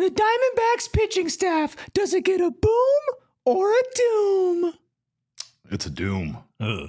The Diamondbacks pitching staff, does it get a boom or a doom? It's a doom. Ugh.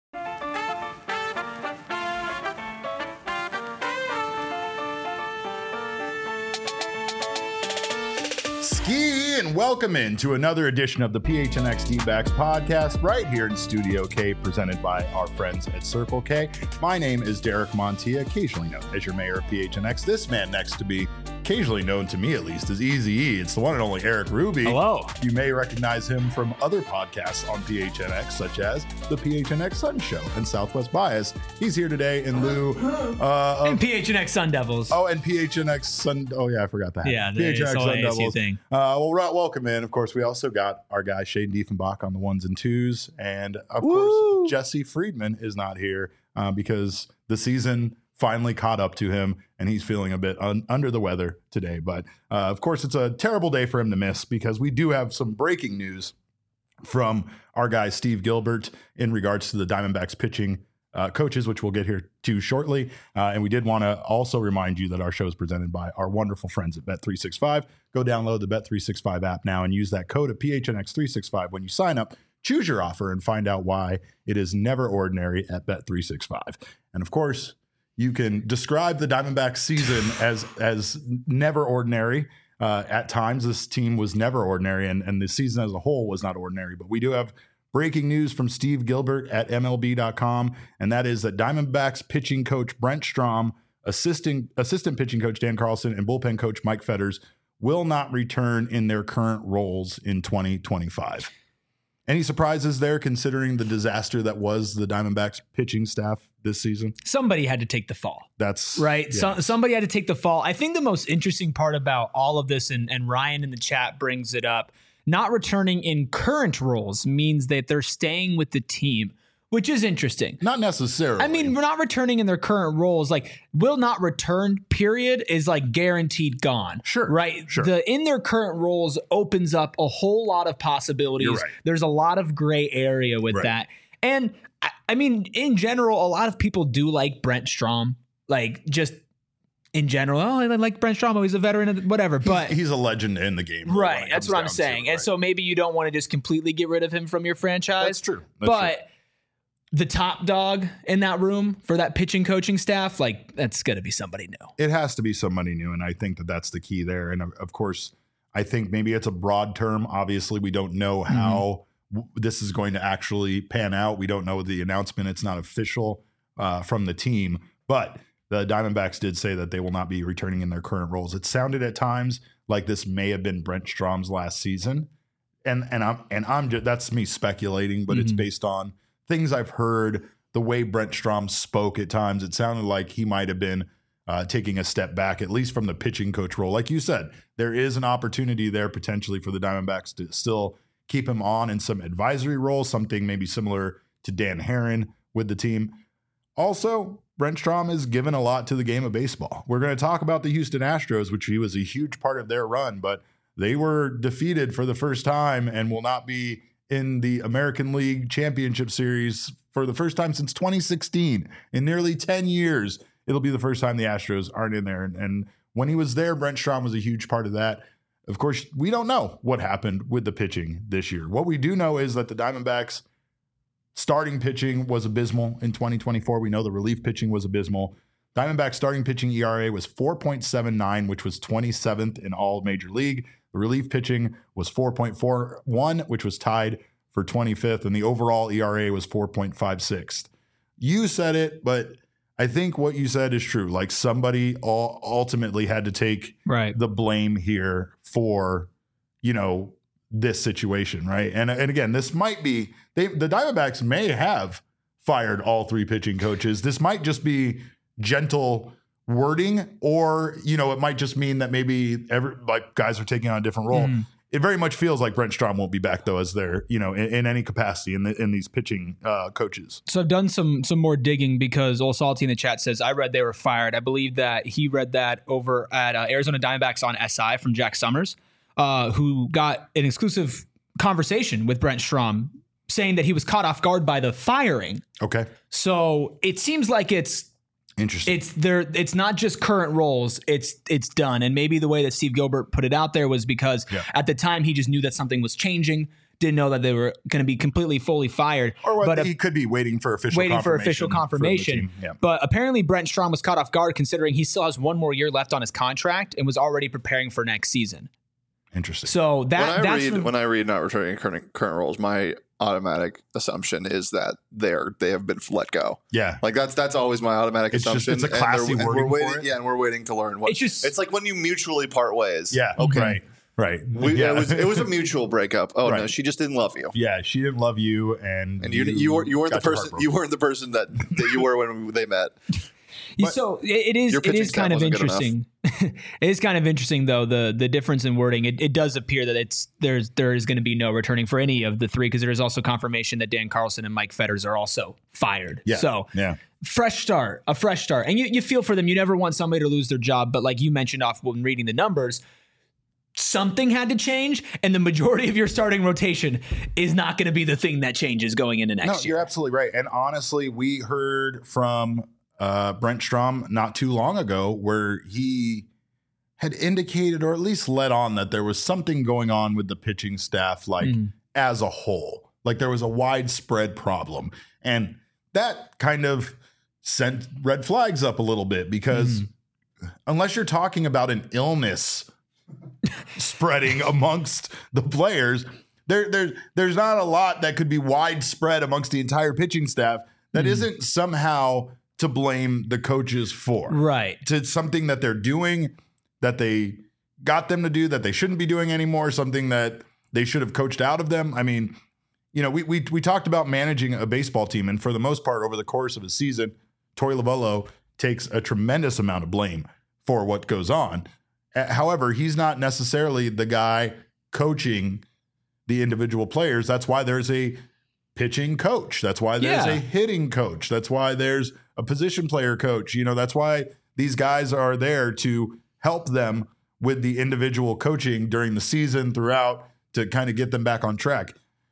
Ski and welcome into another edition of the PHNX D-Backs podcast right here in Studio K, presented by our friends at Circle K. My name is Derek Montilla, occasionally known as your mayor of PHNX. This man next to me, occasionally known to me at least, is Eazy-E. It's the one and only Eric Ruby. Hello. You may recognize him from other podcasts on PHNX, such as the PHNX Sun Show and Southwest Bias. He's here today in lieu of... And PHNX Sun Devils. Oh, and PHNX Sun... Oh, yeah, I forgot that. Yeah, the PHNX Sun Devils. thing. Well, welcome in. Of course, we also got our guy Shane Diefenbach on the ones and twos. And, of course, Jesse Friedman is not here because the season finally caught up to him, and he's feeling a bit under the weather today. But, of course, it's a terrible day for him to miss because we do have some breaking news from our guy Steve Gilbert in regards to the Diamondbacks pitching coaches, which we'll get here to shortly. And we did want to also remind you that our show is presented by our wonderful friends at Bet365. Go download the Bet365 app now and use that code of PHNX365 when you sign up. Choose your offer and find out why it is never ordinary at Bet365. And of course, you can describe the Diamondbacks season as never ordinary. At times, this team was never ordinary, and the season as a whole was not ordinary. But we do have breaking news from Steve Gilbert at MLB.com, and that is that Diamondbacks pitching coach Brent Strom, assistant pitching coach Dan Carlson, and bullpen coach Mike Fetters will not return in their current roles in 2025. Any surprises there, considering the disaster that was the Diamondbacks pitching staff this season? Somebody had to take the fall. That's right. Yeah. Somebody had to take the fall. I think the most interesting part about all of this, and Ryan in the chat brings it up, not returning in current roles means that they're staying with the team, which is interesting. Not necessarily. I mean, we're not returning in their current roles. Like, will not return, period, is like guaranteed gone. Sure. Right? Sure. The in their current roles opens up a whole lot of possibilities. You're right. There's a lot of gray area with Right. that. And I mean, in general, a lot of people do like Brent Strom. Like, just in general, I like Brent Strom. He's a veteran, whatever. But he's a legend in the game. right. That's what I'm saying. And so maybe you don't want to just completely get rid of him from your franchise. That's true. That's true. The top dog in that room for that pitching coaching staff, like, that's going to be somebody new. It has to be somebody new, and I think that that's the key there. And of course, I think maybe it's a broad term. Obviously, we don't know how this is going to actually pan out. We don't know the announcement. It's not official from the team, but the Diamondbacks did say that they will not be returning in their current roles. It sounded at times like this may have been Brent Strom's last season, and I'm just, that's me speculating, but it's based on things I've heard, the way Brent Strom spoke at times. It sounded like he might have been taking a step back, at least from the pitching coach role. Like you said, there is an opportunity there potentially for the Diamondbacks to still keep him on in some advisory role, something maybe similar to Dan Herron with the team. Also, Brent Strom has given a lot to the game of baseball. We're going to talk about the Houston Astros, which he was a huge part of their run, but they were defeated for the first time and will not be in the American League Championship Series for the first time since 2016. In nearly 10 years, it'll be the first time the Astros aren't in there. And when he was there, Brent Strom was a huge part of that. Of course, we don't know what happened with the pitching this year. What we do know is that the Diamondbacks starting pitching was abysmal in 2024. We know the relief pitching was abysmal. Diamondbacks starting pitching ERA was 4.79, which was 27th in all Major League. The relief pitching was 4.41, which was tied for 25th, and the overall ERA was 4.56. You said it, but I think what you said is true. Like, somebody ultimately had to take the blame here for, this situation, right? And again, this might be the Diamondbacks may have fired all three pitching coaches. This might just be gentle wording, or it might just mean that maybe guys are taking on a different role. It very much feels like Brent Strom won't be back though, as their in any capacity in these pitching coaches. So I've done some more digging because Old Salty in the chat says I read they were fired. I believe that he read that over at Arizona Diamondbacks on SI from Jack Summers, who got an exclusive conversation with Brent Strom saying that he was caught off guard by the firing. Okay. So it seems like it's Interesting. It's not just current roles. It's done. And maybe the way that Steve Gilbert put it out there was because at the time he just knew that something was changing. Didn't know that they were going to be completely fully fired. Or he could be waiting for official confirmation. Yeah. But apparently Brent Strom was caught off guard considering he still has one more year left on his contract and was already preparing for next season. Interesting. So when I read not returning current roles, my automatic assumption is that they have been let go. Yeah, like that's always my automatic assumption. It's a classy wording for it. Yeah, and we're waiting to learn what. It's like when you mutually part ways. Yeah. Okay. Right. It was a mutual breakup. Oh no, she just didn't love you. Yeah, she didn't love you, and you weren't the person. You weren't the person that you were when they met. But so it is kind of interesting. It is kind of interesting though the difference in wording. It does appear that there is going to be no returning for any of the three because there is also confirmation that Dan Carlson and Mike Fetters are also fired. Yeah. So a fresh start, and you feel for them. You never want somebody to lose their job, but like you mentioned off when reading the numbers, something had to change, and the majority of your starting rotation is not going to be the thing that changes going into next year. You're absolutely right. And honestly, we heard from Brent Strom not too long ago where he had indicated or at least let on that there was something going on with the pitching staff as a whole. Like there was a widespread problem. And that kind of sent red flags up a little bit because unless you're talking about an illness spreading amongst the players, there's not a lot that could be widespread amongst the entire pitching staff that isn't somehow to blame the coaches for. Right. To something that they're doing that they got them to do that they shouldn't be doing anymore, something that they should have coached out of them. I mean, we talked about managing a baseball team, and for the most part over the course of a season, Torey Lovullo takes a tremendous amount of blame for what goes on. However, he's not necessarily the guy coaching the individual players. That's why there's a pitching coach. That's why there's a hitting coach. That's why there's a position player coach. That's why these guys are there to help them with the individual coaching during the season throughout to kind of get them back on track.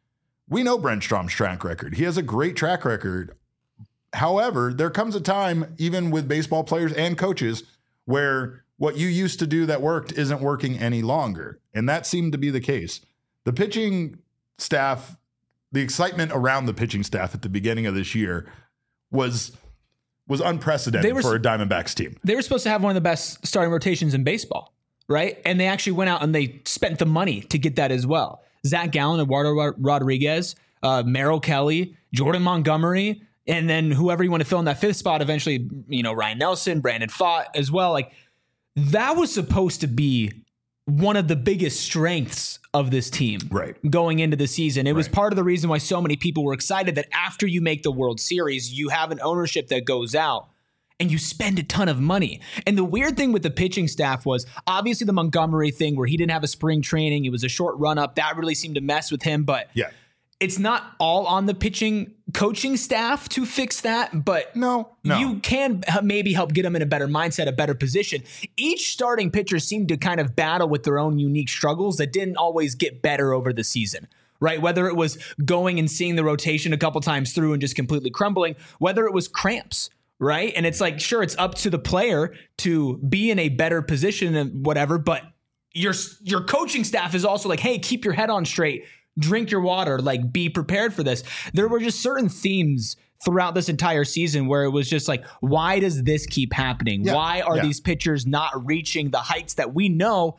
We know Brent Strom's track record. He has a great track record. However, there comes a time, even with baseball players and coaches, where what you used to do that worked isn't working any longer. And that seemed to be the case. The pitching staff, the excitement around the pitching staff at the beginning of this year was unprecedented for a Diamondbacks team. They were supposed to have one of the best starting rotations in baseball, right? And they actually went out and they spent the money to get that as well. Zach Gallen, Eduardo Rodriguez, Merrill Kelly, Jordan Montgomery, and then whoever you want to fill in that fifth spot, eventually, Ryan Nelson, Brandon Pfaadt as well. Like that was supposed to be one of the biggest strengths of this team going into the season. It was part of the reason why so many people were excited that after you make the World Series, you have an ownership that goes out and you spend a ton of money. And the weird thing with the pitching staff was obviously the Montgomery thing where he didn't have a spring training. It was a short run up. That really seemed to mess with him. But it's not all on the pitching coaching staff to fix that, but you can maybe help get them in a better mindset, a better position. Each starting pitcher seemed to kind of battle with their own unique struggles that didn't always get better over the season, right? Whether it was going and seeing the rotation a couple times through and just completely crumbling, whether it was cramps, right? And it's like, sure, it's up to the player to be in a better position and whatever, but your coaching staff is also like, hey, keep your head on straight. Drink your water, like be prepared for this. There were just certain themes throughout this entire season where it was just like, why does this keep happening? Why are these pitchers not reaching the heights that we know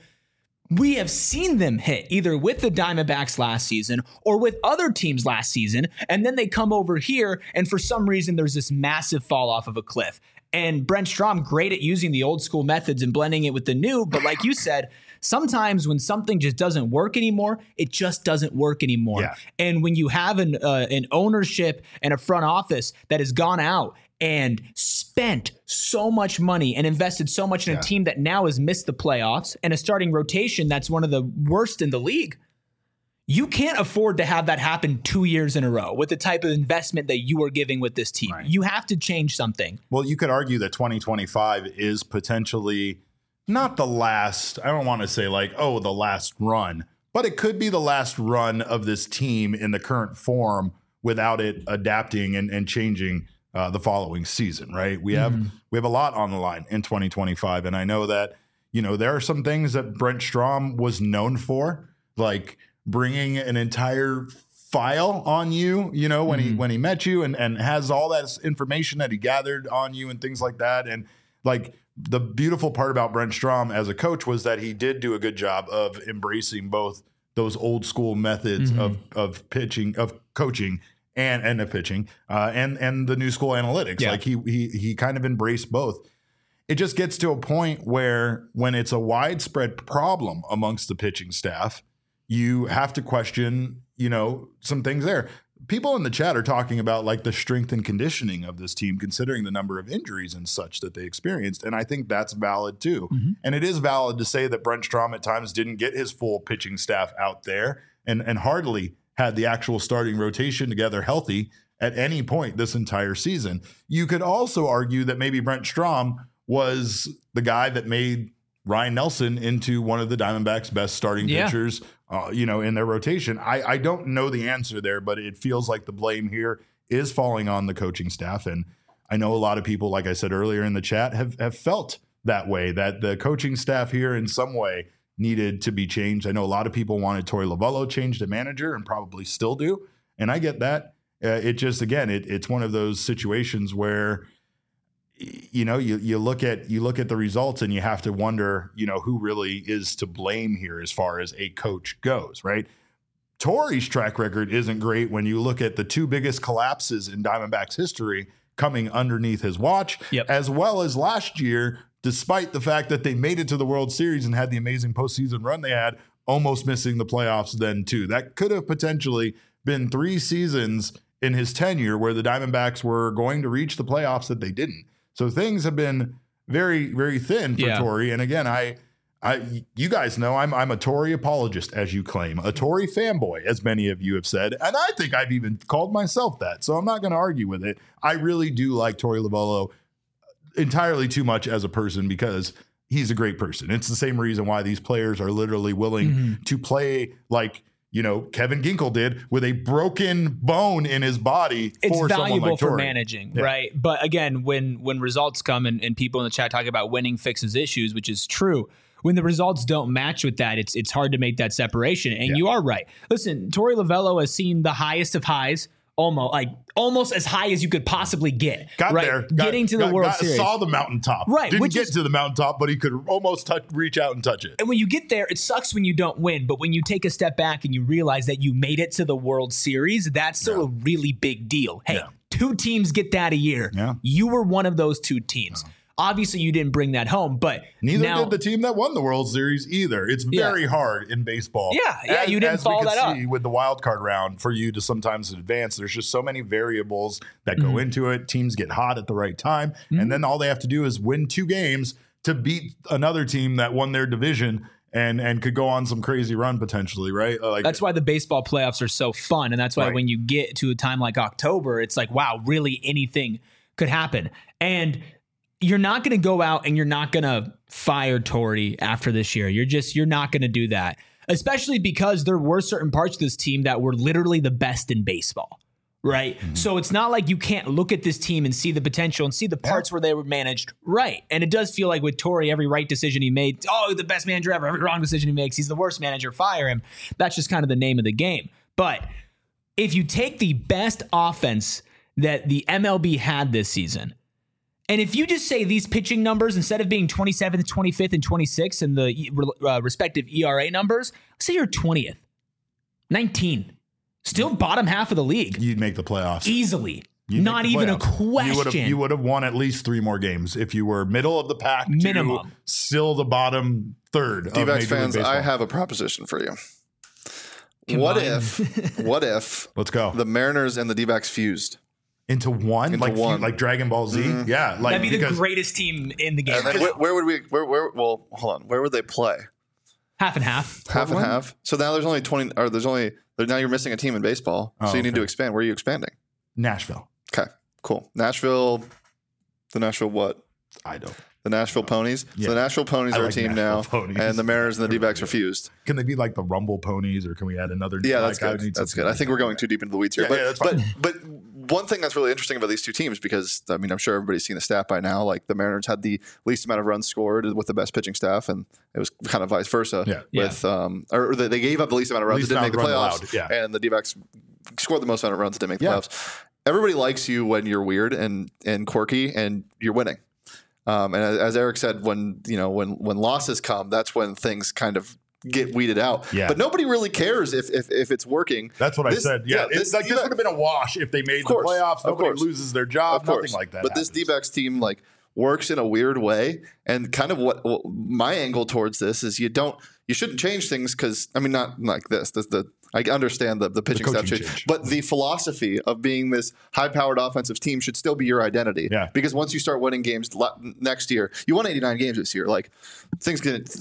we have seen them hit either with the Diamondbacks last season or with other teams last season? And then they come over here and for some reason there's this massive fall off of a cliff. And Brent Strom, great at using the old school methods and blending it with the new. But like you said, sometimes when something just doesn't work anymore, it just doesn't work anymore. Yeah. And when you have an ownership and a front office that has gone out and spent so much money and invested so much in a team that now has missed the playoffs and a starting rotation that's one of the worst in the league, you can't afford to have that happen 2 years in a row with the type of investment that you are giving with this team. Right. You have to change something. Well, you could argue that 2025 is potentially not the last, I don't want to say like, oh, the last run, but it could be the last run of this team in the current form without it adapting and changing the following season, right? We have a lot on the line in 2025, and I know that there are some things that Brent Strom was known for, like bringing an entire file on you, when he met you, and has all that information that he gathered on you and things like that, and like. The beautiful part about Brent Strom as a coach was that he did do a good job of embracing both those old school methods of pitching, of coaching, and of pitching, and the new school analytics. Yeah. Like he kind of embraced both. It just gets to a point where when it's a widespread problem amongst the pitching staff, you have to question, some things there. People in the chat are talking about like the strength and conditioning of this team, considering the number of injuries and such that they experienced. And I think that's valid too. And it is valid to say that Brent Strom at times didn't get his full pitching staff out there and hardly had the actual starting rotation together healthy at any point this entire season. You could also argue that maybe Brent Strom was the guy that made Ryan Nelson into one of the Diamondbacks' best starting pitchers, in their rotation. I don't know the answer there, but it feels like the blame here is falling on the coaching staff. And I know a lot of people, like I said earlier in the chat, have felt that way, that the coaching staff here in some way needed to be changed. I know a lot of people wanted Torey Lovullo changed to manager and probably still do. And I get that. It just, again, it's one of those situations where you look at the results and you have to wonder, who really is to blame here as far as a coach goes, right? Torey's track record isn't great when you look at the two biggest collapses in Diamondbacks history coming underneath his watch, as well as last year, despite the fact that they made it to the World Series and had the amazing postseason run they had, almost missing the playoffs then too. That could have potentially been 3 seasons in his tenure where the Diamondbacks were going to reach the playoffs that they didn't. So things have been very, very thin for Torey. And again, you guys know I'm a Torey apologist, as you claim, a Torey fanboy, as many of you have said. And I think I've even called myself that. So I'm not going to argue with it. I really do like Torey Lovullo entirely too much as a person because he's a great person. It's the same reason why these players are literally willing to play like, Kevin Ginkel did with a broken bone in his body. It's for valuable like for managing, right? But again, when results come and people in the chat talk about winning fixes issues, which is true, when the results don't match with that, it's hard to make that separation. And you are right. Listen, Torey Lovullo has seen the highest of highs, almost as high as you could possibly get. Getting to the World Series. Saw the mountaintop. Right. Didn't get to the mountaintop, but he could almost reach out and touch it. And when you get there, it sucks when you don't win. But when you take a step back and you realize that you made it to the World Series, that's still a really big deal. Hey, 2 teams get that a year. Yeah. You were one of those 2 teams. Obviously, you didn't bring that home, but neither did the team that won the World Series either. It's very hard in baseball. You didn't follow that up. With the wild card round, for you to sometimes advance, there's just so many variables that go into it. Teams get hot at the right time, and then all they have to do is win 2 games to beat another team that won their division and could go on some crazy run potentially, right? That's why the baseball playoffs are so fun, and that's why when you get to a time like October, it's like, wow, really anything could happen. And you're not going to go out and you're not going to fire Torey after this year. You're not going to do that, especially because there were certain parts of this team that were literally the best in baseball, right? So it's not like you can't look at this team and see the potential and see the parts where they were managed right. And it does feel like with Torey, every right decision he made, the best manager ever. Every wrong decision he makes, he's the worst manager, fire him. That's just kind of the name of the game. But if you take the best offense that the MLB had this season, and if you just say these pitching numbers, instead of being 27th, 25th, and 26th in the respective ERA numbers, say you're 20th, 19, still bottom half of the league. You'd make the playoffs. Easily. Not even a question. You would have won at least 3 more games if you were middle of the pack. Minimum. Still the bottom third. D-backs fans, I have a proposition for you. What if let's go, the Mariners and the D-backs fused? Into one, like Dragon Ball Z. Yeah, that'd be the greatest team in the game. And then where would we? Well, hold on. Where would they play? Half and half. Half and half. So now there's only 20. Or now you're missing a team in baseball. So you need to expand. Where are you expanding? Nashville. Okay, cool. Nashville. The Nashville what? I don't. The Nashville Ponies. Yeah. So the Nashville Ponies are a team now, and the Mariners and the D-backs are fused. Can they be like the Rumble Ponies, or can we add another? Yeah, that's good. That's good. I think we're going too deep into the weeds here. But one thing that's really interesting about these two teams, because I mean, I'm sure everybody's seen the stat by now. Like the Mariners had the least amount of runs scored with the best pitching staff, and it was kind of vice versa. With or they gave up the least amount of runs that didn't make the playoffs, and the D-backs scored the most amount of runs that didn't make the playoffs. Everybody likes you when you're weird and quirky and you're winning. And as Eric said, when losses come, that's when things kind of get weeded out. But nobody really cares if it's working. That's what I said. This would have been a wash if they made the playoffs. Nobody loses their job. Nothing like that. But this D-backs team works in a weird way. And kind of what my angle towards this is you shouldn't change things because, I mean, not like this. I understand the pitching staff change, but the philosophy of being this high-powered offensive team should still be your identity. Because once you start winning games next year, you won 89 games this year. Like things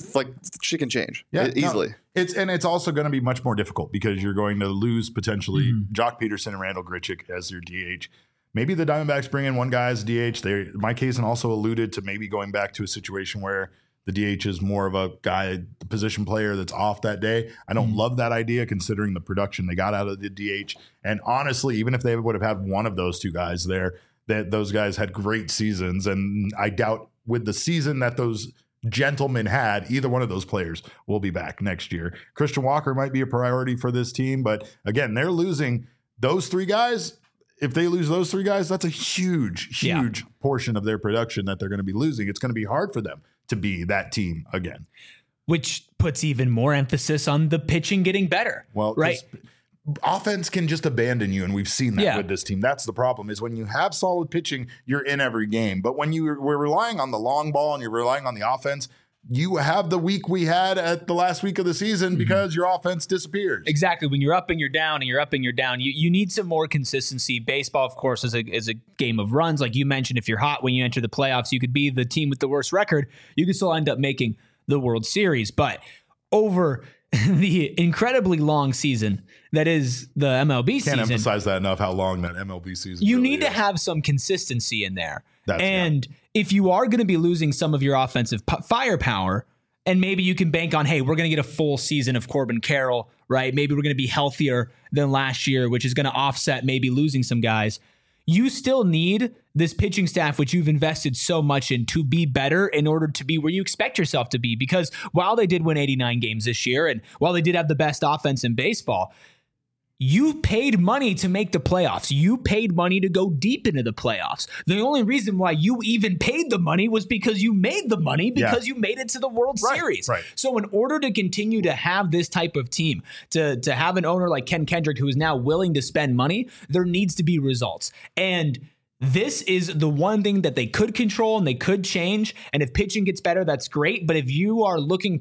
shit can change easily. It's also going to be much more difficult because you're going to lose potentially Jock Peterson and Randall Grichuk as your DH. Maybe the Diamondbacks bring in one guy as DH. Mike Hazen also alluded to maybe going back to a situation where the DH is more of a guy, the position player that's off that day. I don't love that idea considering the production they got out of the DH. And honestly, even if they would have had one of those two guys there, that those guys had great seasons. And I doubt with the season that those gentlemen had, either one of those players will be back next year. Christian Walker might be a priority for this team. But again, they're losing those three guys. If they lose those three guys, that's a huge portion of their production that they're going to be losing. It's going to be hard for them to be that team again. Which puts even more emphasis on the pitching getting better. Well, right. Offense can just abandon you, and we've seen that with this team. That's the problem, is when you have solid pitching, you're in every game. But when we're relying on the long ball and you're relying on the offense, you have the week we had at the last week of the season because your offense disappears. Exactly. When you're up and you're down and you're up and you're down, you need some more consistency. Baseball, of course, is a game of runs. Like you mentioned, if you're hot when you enter the playoffs, you could be the team with the worst record. You could still end up making the World Series. But over the incredibly long season that is the MLB season. Can't emphasize that enough, how long that MLB season You really need is. to have some consistency in there. If you are going to be losing some of your offensive firepower, and maybe you can bank on, hey, we're going to get a full season of Corbin Carroll, right? Maybe we're going to be healthier than last year, which is going to offset maybe losing some guys. You still need this pitching staff, which you've invested so much in, to be better in order to be where you expect yourself to be. Because while they did win 89 games this year, and while they did have the best offense in baseball, you paid money to make the playoffs. You paid money to go deep into the playoffs. The only reason why you even paid the money was because you made the money because you made it to the World Series. Right. So in order to continue to have this type of team, to have an owner like Ken Kendrick who is now willing to spend money, there needs to be results. And this is the one thing that they could control and they could change. And if pitching gets better, that's great. But if you are looking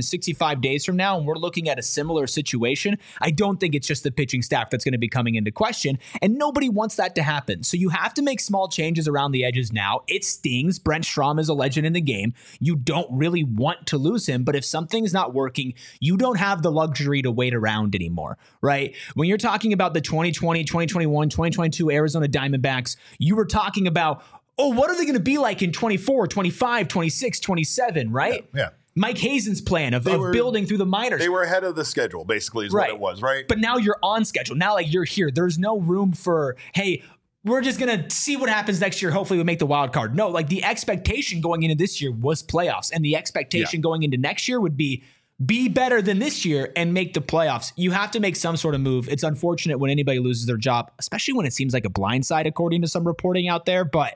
365 days from now and we're looking at a similar situation, I don't think it's just the pitching staff that's going to be coming into question. And nobody wants that to happen. So you have to make small changes around the edges now. It stings. Brent Strom is a legend in the game. You don't really want to lose him. But if something's not working, you don't have the luxury to wait around anymore, right? When you're talking about the 2020, 2021, 2022 Arizona Diamondbacks, you were talking about, what are they going to be like in 24, 25, 26, 27, right? Yeah. Mike Hazen's plan of building through the minors. They were ahead of the schedule, basically, is what it was, right? But now you're on schedule. Now, like, you're here. There's no room for, hey, we're just going to see what happens next year. Hopefully we make the wild card. No, like the expectation going into this year was playoffs. And the expectation going into next year would be better than this year and make the playoffs. You have to make some sort of move. It's unfortunate when anybody loses their job, especially when it seems like a blindside, according to some reporting out there. But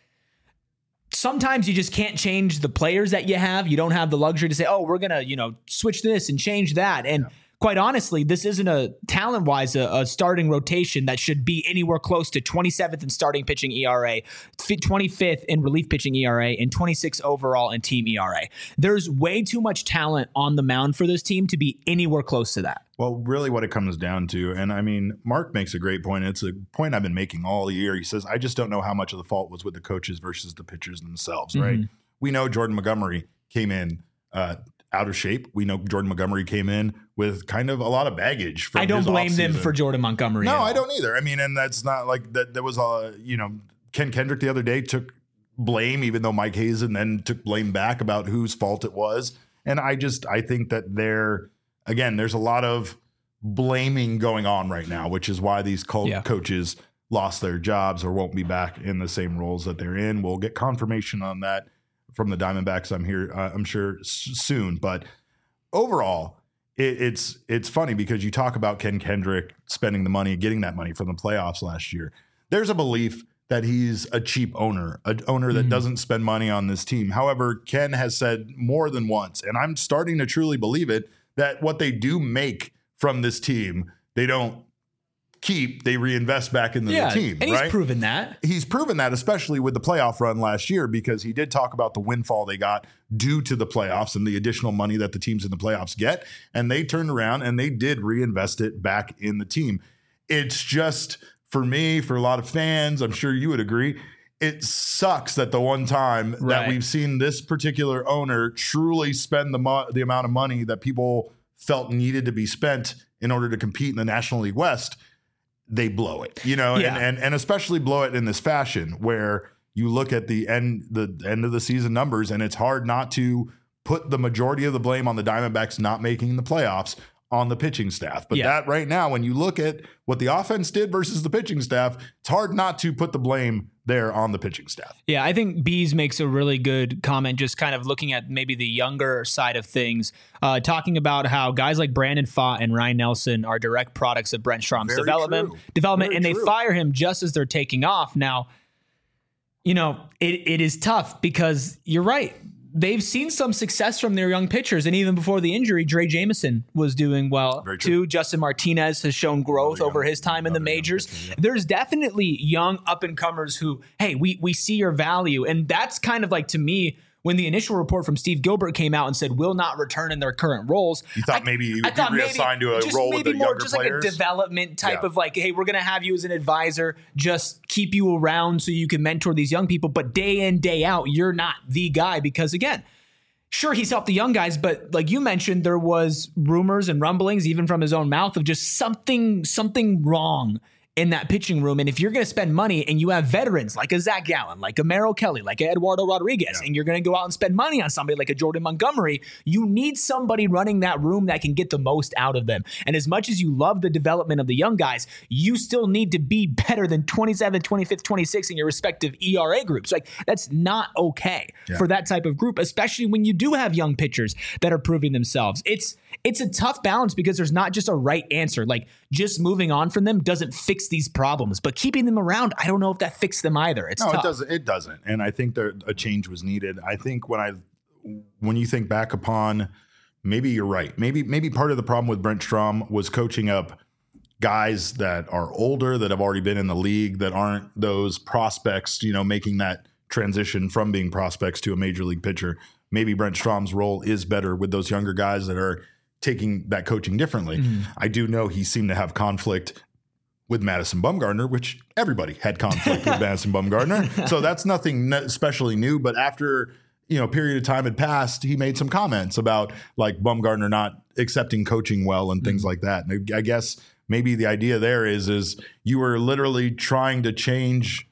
sometimes you just can't change the players that you have. You don't have the luxury to say, we're going to, switch this and change that. And quite honestly, this isn't a talent-wise a starting rotation that should be anywhere close to 27th in starting pitching ERA, 25th in relief pitching ERA, and 26th overall in team ERA. There's way too much talent on the mound for this team to be anywhere close to that. Well, really what it comes down to, and I mean, Mark makes a great point. It's a point I've been making all year. He says, I just don't know how much of the fault was with the coaches versus the pitchers themselves, right? We know Jordan Montgomery came in out of shape. We know Jordan Montgomery came in with kind of a lot of baggage. From I don't blame them for Jordan Montgomery. No, I don't either. I mean, and that's not like that. There was Ken Kendrick the other day took blame, even though Mike Hazen then took blame back about whose fault it was. And I think that there's a lot of blaming going on right now, which is why these coaches lost their jobs or won't be back in the same roles that they're in. We'll get confirmation on that from the Diamondbacks, I'm sure soon. But overall, it's funny because you talk about Ken Kendrick spending the money, getting that money from the playoffs last year. There's a belief that he's a cheap owner, an owner that doesn't spend money on this team. However, Ken has said more than once, and I'm starting to truly believe it, that what they do make from this team, they don't keep, they reinvest back into the team. And right? He's proven that. He's proven that, especially with the playoff run last year, because he did talk about the windfall they got due to the playoffs and the additional money that the teams in the playoffs get. And they turned around and they did reinvest it back in the team. It's just, for me, for a lot of fans, I'm sure you would agree, it sucks that the one time that we've seen this particular owner truly spend the amount of money that people felt needed to be spent in order to compete in the National League West, they blow it, and especially blow it in this fashion where you look at the end of the season numbers, and it's hard not to put the majority of the blame on the Diamondbacks not making the playoffs on the pitching staff. But that right now, when you look at what the offense did versus the pitching staff, it's hard not to put the blame there on the pitching staff. Yeah, I think Bees makes a really good comment, just kind of looking at maybe the younger side of things, talking about how guys like Brandon Pfaadt and Ryan Nelson are direct products of Brent Strom's development, and they fire him just as they're taking off. Now, it is tough because you're right. They've seen some success from their young pitchers. And even before the injury, Dre Jameson was doing well too. Justin Martinez has shown growth over his time in the majors. There's definitely young up-and-comers who, hey, we see your value. And that's kind of like, to me, when the initial report from Steve Gilbert came out and said will not return in their current roles. You thought maybe you would be reassigned to a role with the younger players? Just like a development type of like, hey, we're going to have you as an advisor, just keep you around so you can mentor these young people. But day in, day out, you're not the guy because, again, sure, he's helped the young guys, but like you mentioned, there was rumors and rumblings, even from his own mouth, of just something wrong in that pitching room. And if you're going to spend money and you have veterans like a Zach Gallen, like a Merrill Kelly, like a Eduardo Rodriguez, and you're going to go out and spend money on somebody like a Jordan Montgomery, you need somebody running that room that can get the most out of them. And as much as you love the development of the young guys, you still need to be better than 27th, 25th, 26th in your respective ERA groups. Like, that's not okay for that type of group, especially when you do have young pitchers that are proving themselves. It's a tough balance because there's not just a right answer. Like, just moving on from them doesn't fix these problems, but keeping them around, I don't know if that fixed them either. It's tough. It doesn't. And I think a change was needed. I think when you think back upon, maybe you're right. Maybe part of the problem with Brent Strom was coaching up guys that are older, that have already been in the league, that aren't those prospects, making that transition from being prospects to a major league pitcher. Maybe Brent Strom's role is better with those younger guys that are taking that coaching differently. I do know he seemed to have conflict with Madison Bumgarner, which everybody had conflict with Madison Bumgarner. So that's nothing especially new. But after, a period of time had passed, he made some comments about like Bumgarner not accepting coaching well and things like that. And I guess maybe the idea there is you were literally trying to change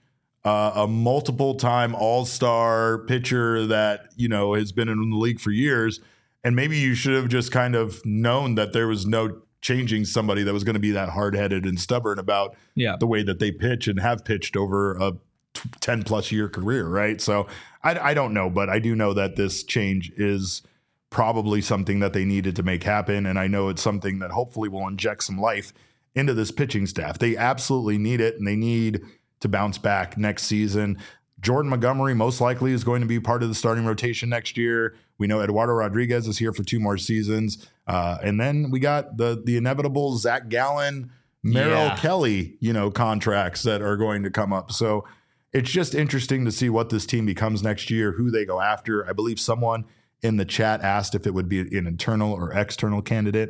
a multiple time all-star pitcher that, has been in the league for years. And maybe you should have just kind of known that there was no changing somebody that was going to be that hard-headed and stubborn about the way that they pitch and have pitched over a 10-plus year career, right? So I don't know, but I do know that this change is probably something that they needed to make happen, and I know it's something that hopefully will inject some life into this pitching staff. They absolutely need it, and they need to bounce back next season. Jordan Montgomery most likely is going to be part of the starting rotation next year. We know Eduardo Rodriguez is here for 2 more seasons. And then we got the inevitable Zach Gallen, Merrill Kelly, contracts that are going to come up. So it's just interesting to see what this team becomes next year, who they go after. I believe someone in the chat asked if it would be an internal or external candidate.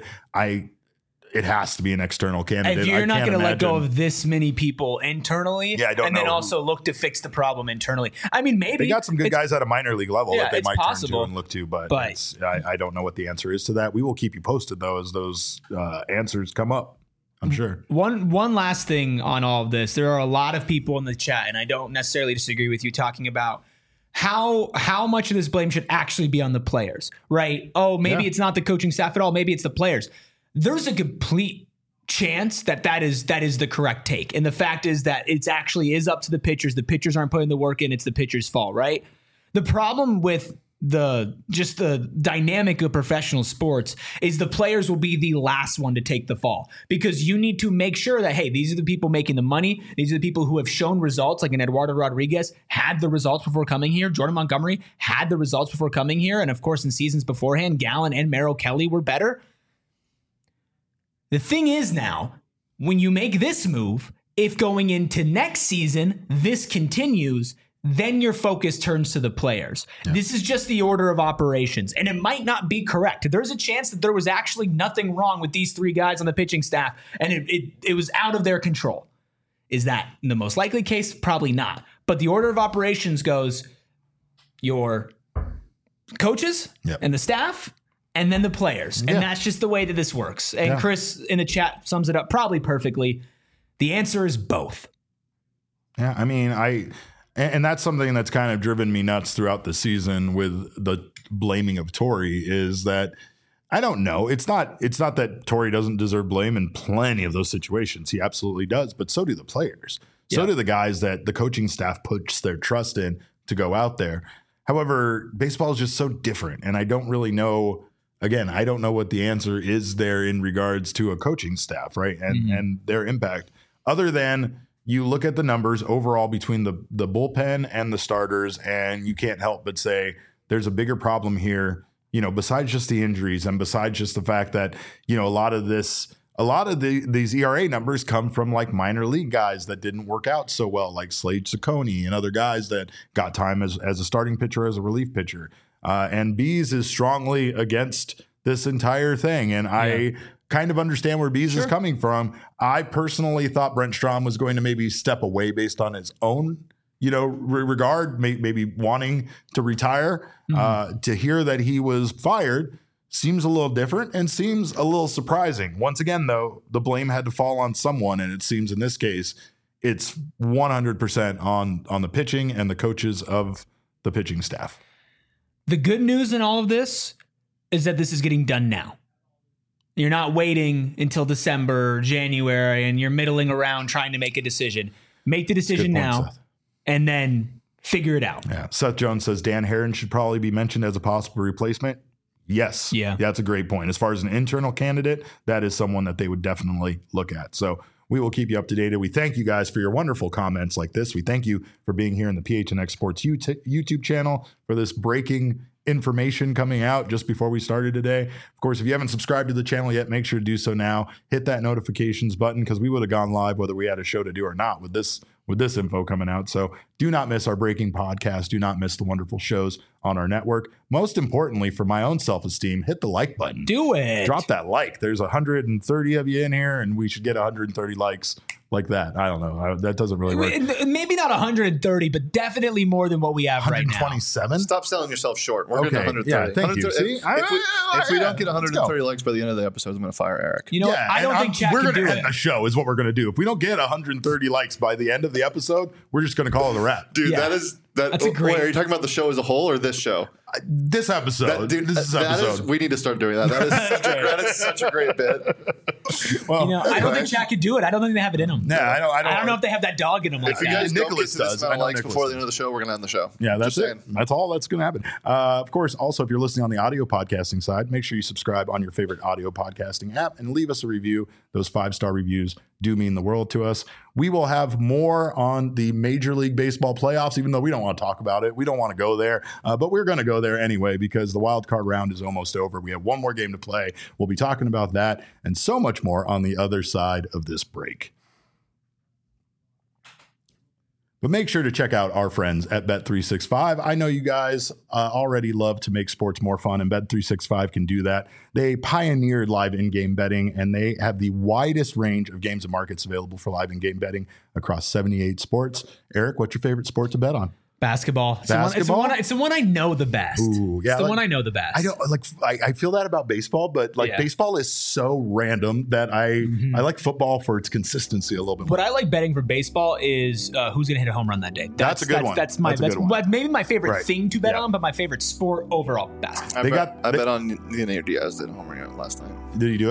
It has to be an external candidate. If you're not going to let go of this many people internally, then also look to fix the problem internally. I mean, maybe they got some good guys at a minor league level that they might turn to and look to, but I don't know what the answer is to that. We will keep you posted though as those answers come up. I'm sure. One last thing on all of this, there are a lot of people in the chat, and I don't necessarily disagree with you, talking about how much of this blame should actually be on the players, right? Oh, maybe it's not the coaching staff at all. Maybe it's the players. There's a complete chance that is the correct take. And the fact is that it's actually is up to the pitchers. The pitchers aren't putting the work in. It's the pitchers' fault, right? The problem with the dynamic of professional sports is the players will be the last one to take the fall, because you need to make sure that, hey, these are the people making the money. These are the people who have shown results, like an Eduardo Rodriguez had the results before coming here. Jordan Montgomery had the results before coming here. And of course, in seasons beforehand, Gallen and Merrill Kelly were better. The thing is now, when you make this move, if going into next season, this continues, then your focus turns to the players. Yeah. This is just the order of operations, and it might not be correct. There's a chance that there was actually nothing wrong with these three guys on the pitching staff, and it was out of their control. Is that the most likely case? Probably not. But the order of operations goes your coaches and the staff, and then the players. And that's just the way that this works. And Chris in the chat sums it up probably perfectly. The answer is both. Yeah, I mean, and that's something that's kind of driven me nuts throughout the season with the blaming of Torey, is that I don't know. It's not that Torey doesn't deserve blame in plenty of those situations. He absolutely does, but so do the players. So do the guys that the coaching staff puts their trust in to go out there. However, baseball is just so different, and I don't really know. Again, I don't know what the answer is there in regards to a coaching staff, right? And their impact, other than you look at the numbers overall between the bullpen and the starters, and you can't help but say there's a bigger problem here, besides just the injuries and besides just the fact that, a lot of these ERA numbers come from like minor league guys that didn't work out so well, like Slade Ciccone and other guys that got time as a starting pitcher, as a relief pitcher. And Bees is strongly against this entire thing. And I kind of understand where Bees is coming from. I personally thought Brent Strom was going to maybe step away based on his own, regard, maybe wanting to retire. To hear that he was fired seems a little different and seems a little surprising. Once again, though, the blame had to fall on someone. And it seems in this case, it's 100% on the pitching and the coaches of the pitching staff. The good news in all of this is that this is getting done now. You're not waiting until December, January, and you're middling around trying to make a decision. Make the decision now, and then figure it out. Yeah. Seth Jones says Dan Herron should probably be mentioned as a possible replacement. Yes. Yeah. That's a great point. As far as an internal candidate, that is someone that they would definitely look at. So we will keep you up to date. We thank you guys for your wonderful comments like this. We thank you for being here in the PHNX Sports YouTube channel for this breaking information coming out just before we started today. Of course, if you haven't subscribed to the channel yet, make sure to do so now. Hit that notifications button, because we would have gone live whether we had a show to do or not with this info coming out. So do not miss our breaking podcast. Do not miss the wonderful shows on our network. Most importantly, for my own self-esteem, hit the like button. Do it. Drop that like. There's 130 of you in here, and we should get 130 likes like that. I don't know. That doesn't really work. Maybe not 130, but definitely more than what we have right now. 127? Stop selling yourself short. We're getting 130. Yeah, thank you. See? If we don't get 130 likes by the end of the episode, I'm going to fire Eric. I don't think Chad we're can going do to end the show is what we're going to do. If we don't get 130 likes by the end of the episode, we're just going to call it a wrap. Dude, that's a great... Wait, are you talking about the show as a whole or this show? This episode. We need to start doing that. That is such a great bit. Well, I don't think Chad could do it. I don't think they have it in them. Yeah, I don't know if they have that dog in them. If you guys Nicholas don't get to this amount of likes before the end of the show, we're going to end the show. Yeah, that's it. That's all that's going to happen. Of course, also, if you're listening on the audio podcasting side, make sure you subscribe on your favorite audio podcasting app and leave us a review. Those 5-star reviews do mean the world to us. We will have more on the Major League Baseball playoffs, even though we don't want to talk about it. We don't want to go there, but we're going to go there anyway because the wild card round is almost over. We have one more game to play. We'll be talking about that and so much more on the other side of this break. But make sure to check out our friends at Bet365. I know you guys already love to make sports more fun, and Bet365 can do that. They pioneered live in-game betting, and they have the widest range of games and markets available for live in-game betting across 78 sports. Eric, what's your favorite sport to bet on? Basketball. It's the one I know the best. Ooh, yeah, it's the one I know the best. I don't I feel that about baseball, but baseball is so random that I like football for its consistency a little bit more. What I like betting for baseball is who's going to hit a home run that day. That's a good one. That's maybe my favorite thing to bet on, but my favorite sport overall, basketball. I bet on Leonardo Diaz did a home run last night. Did he do it?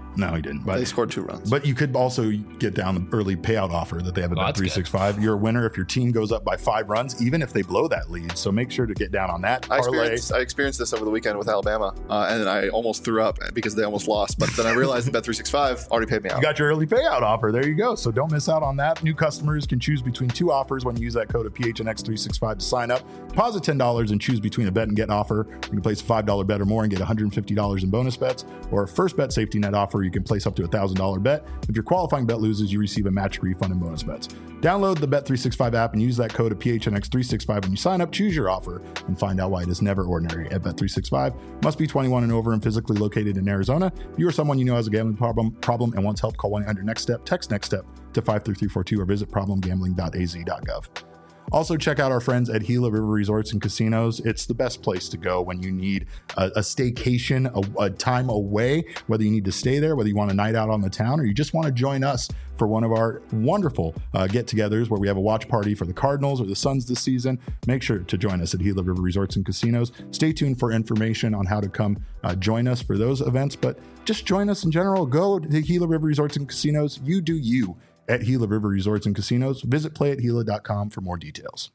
No, he didn't. But they scored 2 runs. But you could also get down the early payout offer that they have at Bet365. You're a winner if your team goes up by 5 runs, even if they blow that lead. So make sure to get down on that. I experienced this over the weekend with Alabama, and then I almost threw up because they almost lost. But then I realized that Bet365 already paid me out. You got your early payout offer. There you go. So don't miss out on that. New customers can choose between 2 offers when you use that code of PHNX365 to sign up. Deposit $10 and choose between a bet and get offer. You can place a $5 bet or more and get $150 in bonus bets, or a first bet safety net offer. You can place up to $1,000 bet. If your qualifying bet loses, you receive a match refund and bonus bets. Download the Bet365 app and use that code of PHNX365 when you sign up. Choose your offer and find out why it is never ordinary at Bet365. Must be 21 and over and physically located in Arizona. If you or someone you know has a gambling problem and wants help, call 1-800-NEXT-STEP. Text NEXT STEP to 53342 or visit problemgambling.az.gov. Also, check out our friends at Gila River Resorts and Casinos. It's the best place to go when you need a staycation, a time away, whether you need to stay there, whether you want a night out on the town, or you just want to join us for one of our wonderful get-togethers where we have a watch party for the Cardinals or the Suns this season. Make sure to join us at Gila River Resorts and Casinos. Stay tuned for information on how to come join us for those events, but just join us in general. Go to Gila River Resorts and Casinos. You do you at Gila River Resorts and Casinos. Visit playathila.com for more details.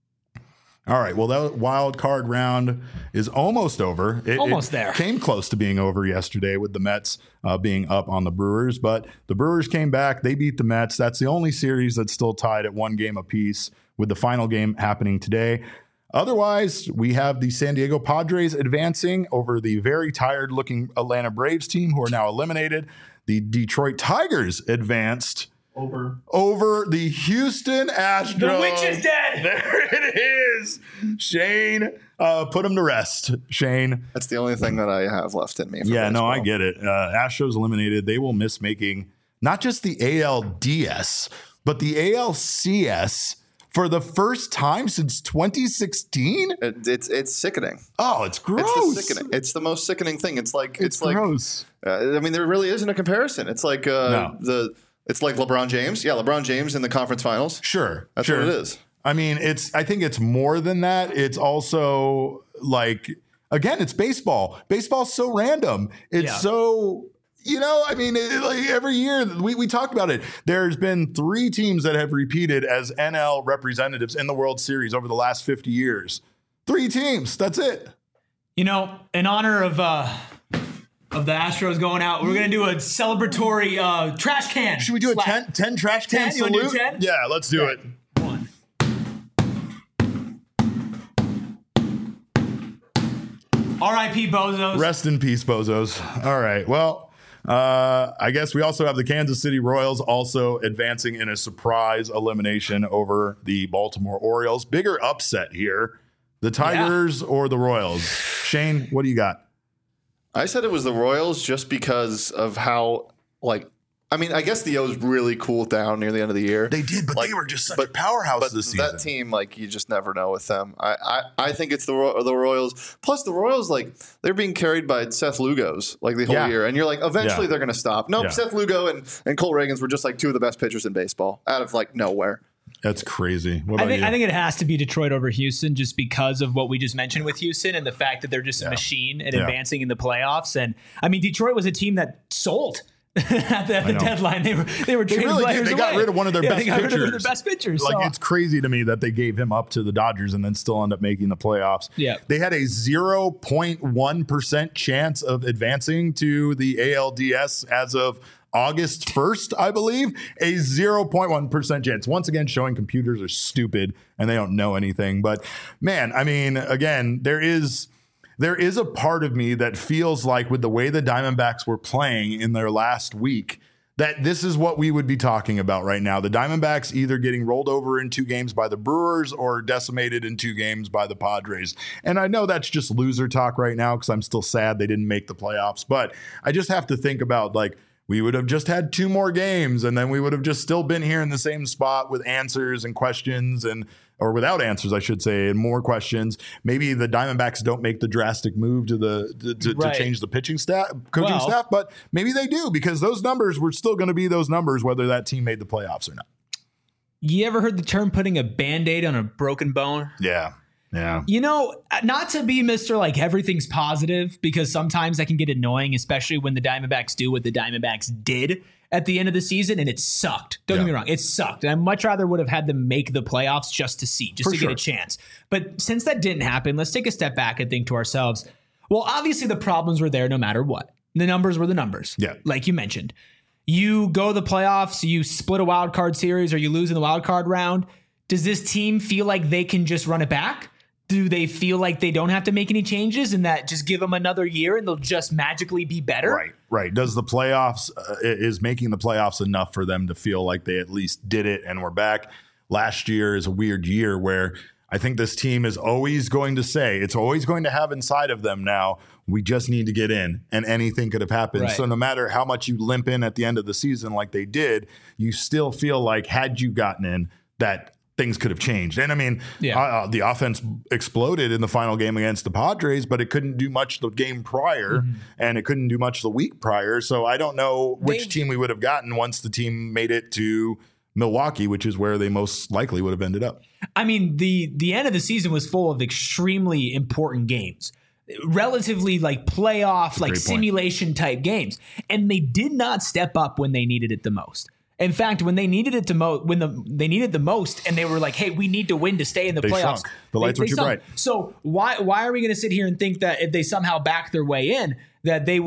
All right. Well, that wild card round is almost over. It came close to being over yesterday with the Mets being up on the Brewers, but the Brewers came back. They beat the Mets. That's the only series that's still tied at 1 game apiece, with the final game happening today. Otherwise, we have the San Diego Padres advancing over the very tired-looking Atlanta Braves team, who are now eliminated. The Detroit Tigers advanced over the Houston Astros. The witch is dead. There it is. Shane, put him to rest. Shane. That's the only thing that I have left in me. Yeah, baseball. No, I get it. Astros eliminated. They will miss making not just the ALDS, but the ALCS for the first time since 2016. It's sickening. Oh, it's gross. It's the most sickening thing. It's gross. I mean, there really isn't a comparison. It's like It's like LeBron James. Yeah, LeBron James in the conference finals. Sure. That's what it is. I mean, I think it's more than that. It's also like, again, it's baseball. Baseball's so random. It's so, I mean, like every year we talked about it. There's been 3 teams that have repeated as NL representatives in the World Series over the last 50 years. 3 teams. That's it. In honor of the Astros going out, we're going to do a celebratory trash can. Should we do a 10 trash can salute? You want to do 10? Yeah, let's do it. 1. R.I.P. Bozos. Rest in peace, Bozos. All right. Well, I guess we also have the Kansas City Royals also advancing in a surprise elimination over the Baltimore Orioles. Bigger upset here. The Tigers or the Royals? Shane, what do you got? I said it was the Royals just because of how, I guess the O's really cooled down near the end of the year. They did, but they were just such a powerhouse this season. That team, you just never know with them. I think it's the Royals. Plus, the Royals, they're being carried by Seth Lugos, the whole year. And you're eventually they're going to stop. Nope, Seth Lugo and Cole Reagans were just, 2 of the best pitchers in baseball out of, nowhere. That's crazy. I think it has to be Detroit over Houston just because of what we just mentioned with Houston and the fact that they're just a machine and advancing in the playoffs. And I mean, Detroit was a team that sold at the deadline. They were trading players away. They got rid of one of their best pitchers. Rid of their best pitchers. It's crazy to me that they gave him up to the Dodgers and then still end up making the playoffs. Yeah. They had a 0.1% chance of advancing to the ALDS as of August 1st, I believe, a 0.1% chance. Once again, showing computers are stupid and they don't know anything. But man, I mean, again, there is a part of me that feels like with the way the Diamondbacks were playing in their last week, that this is what we would be talking about right now. The Diamondbacks either getting rolled over in 2 games by the Brewers or decimated in 2 games by the Padres. And I know that's just loser talk right now because I'm still sad they didn't make the playoffs. But I just have to think about we would have just had 2 more games and then we would have just still been here in the same spot with answers and questions or without answers, I should say, and more questions. Maybe the Diamondbacks don't make the drastic move to change the coaching staff, but maybe they do because those numbers were still going to be those numbers, whether that team made the playoffs or not. You ever heard the term putting a Band-Aid on a broken bone? Yeah. Yeah. You know, not to be Mr. like everything's positive, because sometimes that can get annoying, especially when the Diamondbacks do what the Diamondbacks did at the end of the season, and it sucked. Don't get me wrong, it sucked. And I much rather would have had them make the playoffs just to see, just to get a chance. But since that didn't happen, let's take a step back and think to ourselves, well, obviously the problems were there no matter what. The numbers were the numbers. Yeah. Like you mentioned. You go to the playoffs, you split a wild card series, or you lose in the wild card round. Does this team feel like they can just run it back? Do they feel like they don't have to make any changes and that just give them another year and they'll just magically be better? Right. Does the playoffs, is making the playoffs enough for them to feel like they at least did it and we're back? Last year is a weird year where I think this team is always going to say, it's always going to have inside of them now, we just need to get in, and anything could have happened. Right. So no matter how much you limp in at the end of the season like they did, you still feel like had you gotten in, that things could have changed. And I mean, the offense exploded in the final game against the Padres, but it couldn't do much the game prior, and it couldn't do much the week prior. So I don't know which team we would have gotten once the team made it to Milwaukee, which is where they most likely would have ended up. I mean, the end of the season was full of extremely important games. Relatively like playoff, like simulation type games. And they did not step up when they needed it the most. In fact, when they needed it they needed the most, and they were like, "Hey, we need to win to stay in the playoffs." Sunk. The lights were too bright. So why are we going to sit here and think that if they somehow back their way in, that they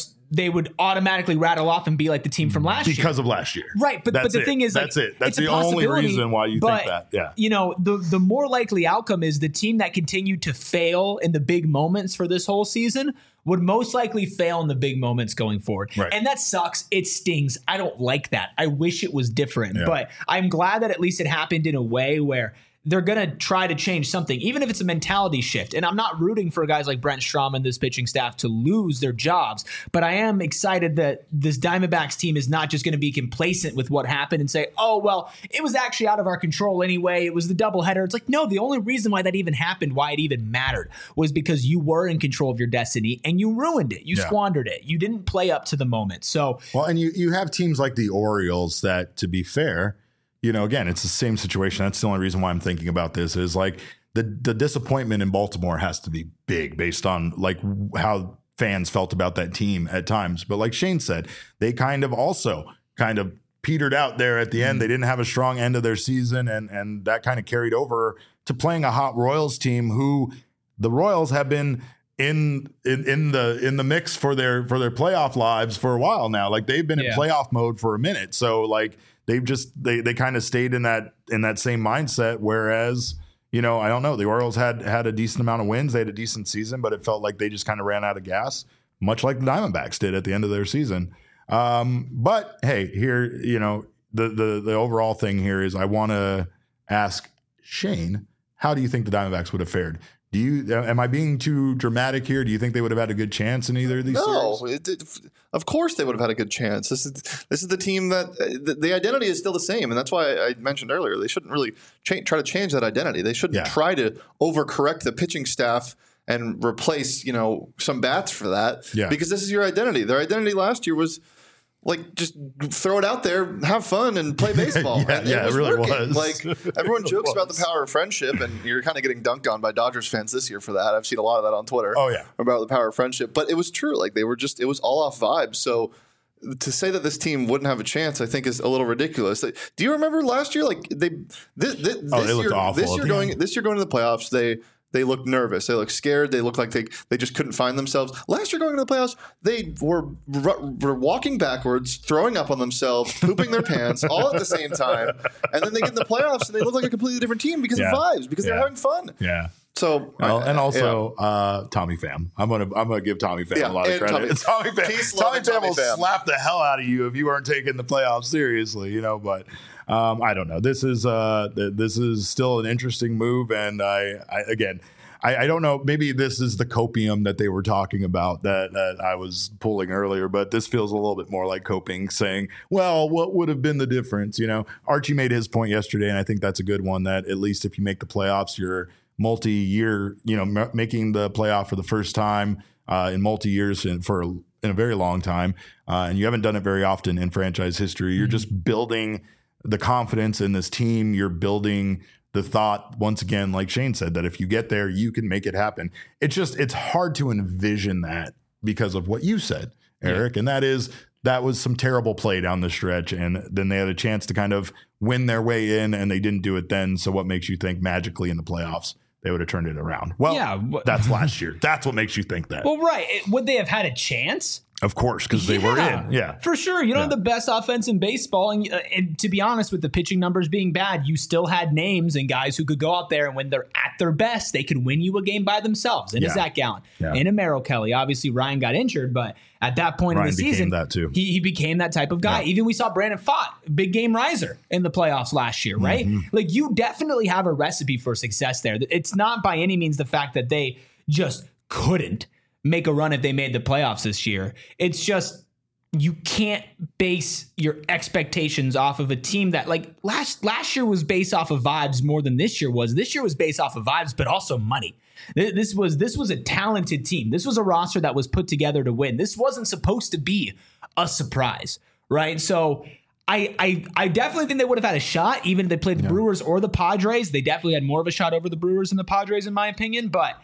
would automatically rattle off and be like the team from last year because of last year, right? But the thing is, that's it. That's the only reason why you think that. Yeah, you know, the more likely outcome is the team that continued to fail in the big moments for this whole season would most likely fail in the big moments going forward. Right. And that sucks. It stings. I don't like that. I wish it was different, but I'm glad that at least it happened in a way where they're going to try to change something, even if it's a mentality shift. And I'm not rooting for guys like Brent Strom and this pitching staff to lose their jobs, but I am excited that this Diamondbacks team is not just going to be complacent with what happened and say, oh, well, it was actually out of our control anyway. It was the doubleheader. It's like, no, the only reason why that even happened, why it even mattered, was because you were in control of your destiny and you ruined it. You squandered it. You didn't play up to the moment. So, well, and you have teams like the Orioles that, to be fair, you know, again, it's the same situation. That's the only reason why I'm thinking about this is like the disappointment in Baltimore has to be big based on like how fans felt about that team at times. But like Shane said, they kind of petered out there at the end. They didn't have a strong end of their season, and that kind of carried over to playing a hot Royals team who the Royals have been in the mix for their playoff lives for a while now. Like they've been in playoff mode for a minute. So like they kind of stayed in that same mindset. Whereas, you know, I don't know, the Orioles had a decent amount of wins. They had a decent season, but it felt like they just kind of ran out of gas, much like the Diamondbacks did at the end of their season. But hey, here, you know, the overall thing here is I want to ask Shane, how do you think the Diamondbacks would have fared? Am I being too dramatic here? Do you think they would have had a good chance in either of these series? Of course they would have had a good chance. This is the team that the identity is still the same, and that's why I mentioned earlier they shouldn't really try to change that identity. They shouldn't try to overcorrect the pitching staff and replace, you know, some bats for that. Yeah. Because this is your identity. Their identity last year was like just throw it out there, have fun, and play baseball. It really was. Like everyone jokes about the power of friendship, and you're kind of getting dunked on by Dodgers fans this year for that. I've seen a lot of that on Twitter. Oh yeah, about the power of friendship. But it was true. Like it was all off vibes. So to say that this team wouldn't have a chance, I think, is a little ridiculous. Do you remember last year? Like this looked awful. This year going to the playoffs, they looked nervous. They looked scared. They looked like they just couldn't find themselves. Last year going to the playoffs, they were walking backwards, throwing up on themselves, pooping their pants all at the same time. And then they get in the playoffs and they look like a completely different team because of vibes, because they're having fun. Yeah. So and also Tommy Pham. I'm gonna give Tommy Pham a lot of credit. Tommy Pham will slap the hell out of you if you aren't taking the playoffs seriously, you know. But I don't know. This is still an interesting move, and I don't know. Maybe this is the copium that they were talking about that I was pulling earlier, but this feels a little bit more like coping, saying, well, what would have been the difference? You know, Archie made his point yesterday, and I think that's a good one, that at least if you make the playoffs, you're multi-year, you know, making the playoff for the first time in multi-years in a very long time. And you haven't done it very often in franchise history. You're just building the confidence in this team. You're building the thought, once again, like Shane said, that if you get there, you can make it happen. It's hard to envision that because of what you said, Eric. And that was some terrible play down the stretch. And then they had a chance to kind of win their way in, and they didn't do it then. So what makes you think magically in the playoffs they would have turned it around? Well, that's last year. That's what makes you think that. Well, right. Would they have had a chance? Of course, because they were in. Yeah, for sure. You don't have the best offense in baseball. And to be honest, with the pitching numbers being bad, you still had names and guys who could go out there, and when they're at their best, they could win you a game by themselves. And Zach Gallen and a Merrill Kelly. Obviously, Ryan got injured, but at that point in the season, that too. He became that type of guy. Yeah. Even we saw Brandon Pfaadt, big game riser in the playoffs last year, right? Mm-hmm. Like, you definitely have a recipe for success there. It's not by any means the fact that they just couldn't make a run if they made the playoffs this year. It's just, you can't base your expectations off of a team that, like, last year was based off of vibes more than this year was. This year was based off of vibes, but also money. This was a talented team. This was a roster that was put together to win. This wasn't supposed to be a surprise, right? So I definitely think they would have had a shot, even if they played the Brewers or the Padres. They definitely had more of a shot over the Brewers and the Padres, in my opinion, but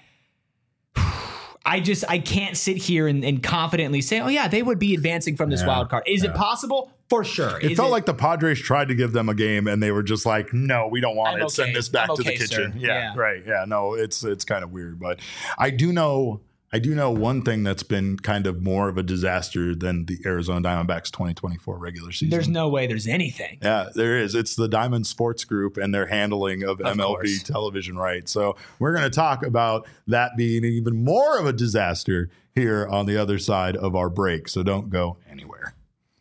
I can't sit here and confidently say, oh yeah, they would be advancing from this wild card. Is it possible? For sure. It felt like the Padres tried to give them a game and they were just like, no, we don't want it. Send this back to the kitchen. Yeah, right. Yeah, no, it's kind of weird. But I do know one thing that's been kind of more of a disaster than the Arizona Diamondbacks 2024 regular season. There's no way there's anything. Yeah, there is. It's the Diamond Sports Group and their handling of MLB television rights. So we're going to talk about that being even more of a disaster here on the other side of our break. So don't go anywhere.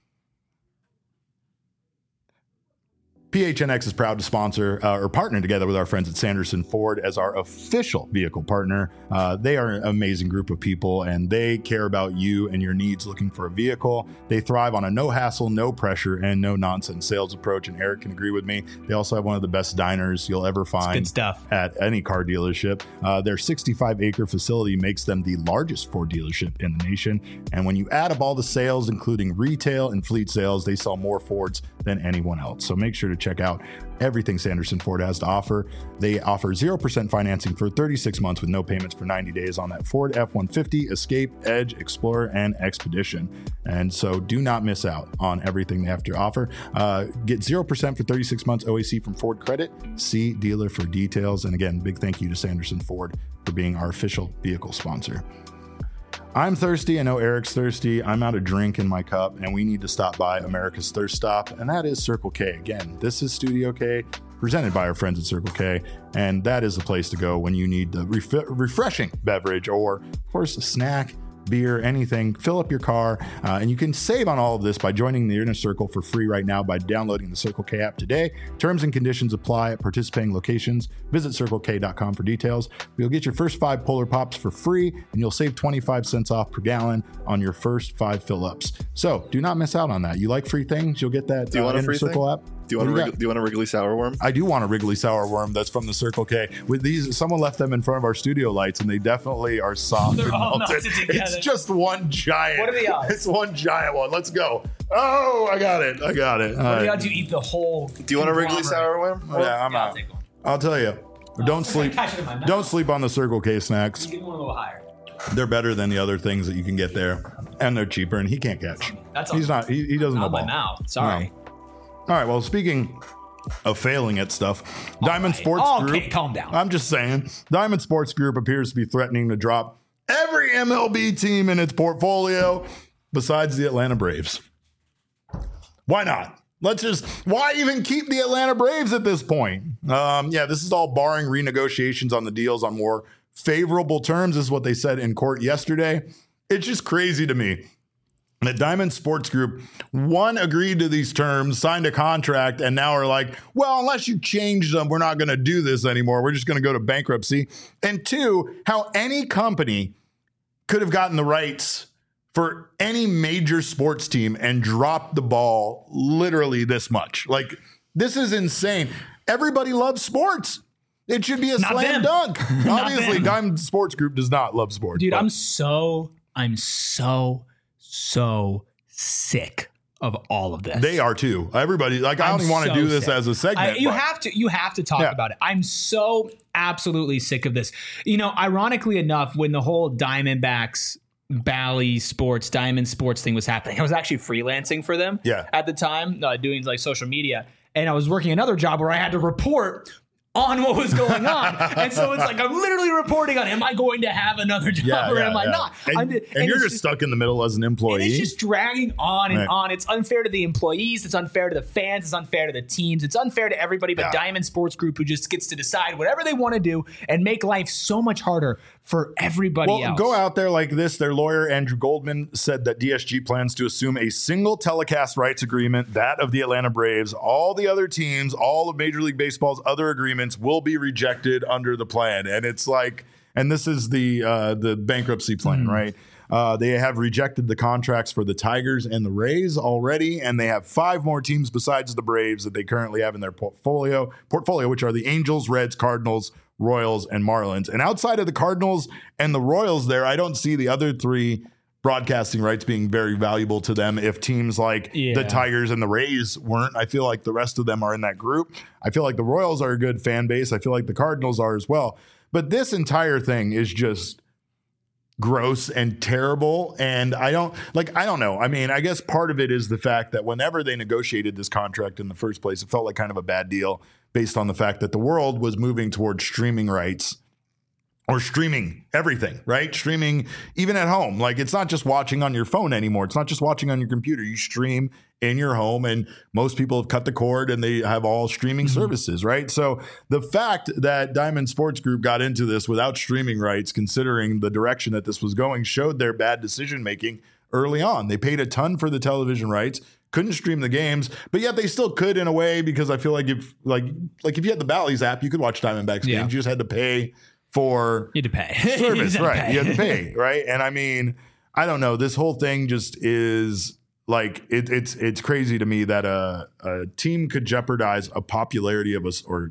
PHNX is proud to sponsor or partner together with our friends at Sanderson Ford as our official vehicle partner. They are an amazing group of people, and they care about you and your needs looking for a vehicle. They thrive on a no hassle, no pressure, and no nonsense sales approach. And Eric can agree with me. They also have one of the best diners you'll ever find at any car dealership. Their 65-acre facility makes them the largest Ford dealership in the nation. And when you add up all the sales, including retail and fleet sales, they sell more Fords than anyone else. So make sure to check out everything Sanderson Ford has to offer. They offer 0% financing for 36 months with no payments for 90 days on that Ford F-150, Escape, Edge, Explorer, and Expedition. And so do not miss out on everything they have to offer. Get 0% for 36 months OAC from Ford Credit. See dealer for details. And again, big thank you to Sanderson Ford for being our official vehicle sponsor. I'm thirsty. I know Eric's thirsty. I'm out of drink in my cup, and we need to stop by America's Thirst Stop, and that is Circle K. Again, this is Studio K, presented by our friends at Circle K, and that is the place to go when you need the refreshing beverage or, of course, a snack, beer, anything. Fill up your car, and you can save on all of this by joining the Inner Circle for free right now by downloading the Circle K app today. Terms and conditions apply at participating locations. Visit CircleK.com for details. You'll get your first 5 Polar Pops for free, and you'll save 25 cents off per gallon on your first 5 fill-ups. So do not miss out on that. You like free things? You'll get that Inner Circle app. Do you want a Wrigley Sour Worm? I do want a Wrigley Sour Worm that's from the Circle K. With these, someone left them in front of our studio lights, and they definitely are soft and melted. It's just one giant. What are the odds? It's one giant one. Let's go. Oh, I got it. What are the odds you eat the whole? Do you want a Wrigley Sour Worm? Yeah, I'm out. I'll tell you. Don't sleep on the Circle K snacks. Give one a little higher. They're better than the other things that you can get there, and they're cheaper. And he can't catch. He's not. He doesn't know ball. Now, sorry. No. All right, well, speaking of failing at stuff, Diamond Sports Group. Okay, calm down. I'm just saying, Diamond Sports Group appears to be threatening to drop every MLB team in its portfolio besides the Atlanta Braves. Why not? Why even keep the Atlanta Braves at this point? This is all barring renegotiations on the deals on more favorable terms, is what they said in court yesterday. It's just crazy to me. The Diamond Sports Group, one, agreed to these terms, signed a contract, and now are like, well, unless you change them, we're not going to do this anymore. We're just going to go to bankruptcy. And two, how any company could have gotten the rights for any major sports team and dropped the ball literally this much. Like, this is insane. Everybody loves sports. It should be a slam dunk. Obviously, Diamond Sports Group does not love sports. Dude, I'm so sick of all of this. They are too. Everybody, like, I don't even want to do this as a segment. You have to talk about it. I'm so absolutely sick of this. Ironically enough, when the whole Diamondbacks Bally Sports, Diamond Sports thing was happening, I was actually freelancing for them at the time, doing like social media. And I was working another job where I had to report on what was going on. And so it's like, I'm literally reporting on, am I going to have another job or am I not? And you're just stuck in the middle as an employee. And it's just dragging on and on. It's unfair to the employees. It's unfair to the fans. It's unfair to the teams. It's unfair to everybody but Diamond Sports Group, who just gets to decide whatever they want to do and make life so much harder for everybody else. Go out there like this. Their lawyer, Andrew Goldman, said that DSG plans to assume a single telecast rights agreement, that of the Atlanta Braves. All the other teams, all of Major League Baseball's other agreements will be rejected under the plan. And it's like, and this is the bankruptcy plan, right? They have rejected the contracts for the Tigers and the Rays already, and they have 5 more teams besides the Braves that they currently have in their portfolio, which are the Angels, Reds, Cardinals, Royals, and Marlins. And outside of the Cardinals and the Royals there, I don't see the other 3 broadcasting rights being very valuable to them. If teams like the Tigers and the Rays weren't, I feel like the rest of them are in that group. I feel like the Royals are a good fan base. I feel like the Cardinals are as well. But this entire thing is just gross and terrible. And I don't know. I mean, I guess part of it is the fact that whenever they negotiated this contract in the first place, it felt like kind of a bad deal based on the fact that the world was moving towards streaming rights, or streaming everything, right? Streaming even at home. Like, it's not just watching on your phone anymore. It's not just watching on your computer. You stream in your home, and most people have cut the cord and they have all streaming services, right? So the fact that Diamond Sports Group got into this without streaming rights, considering the direction that this was going, showed their bad decision-making early on. They paid a ton for the television rights, couldn't stream the games, but yet they still could in a way, because I feel like if you had the Bally's app, you could watch Diamondbacks games. You just had to pay for service, right? You had to pay, right? And I mean, I don't know. This whole thing just is like, it's crazy to me that a team could jeopardize a popularity of a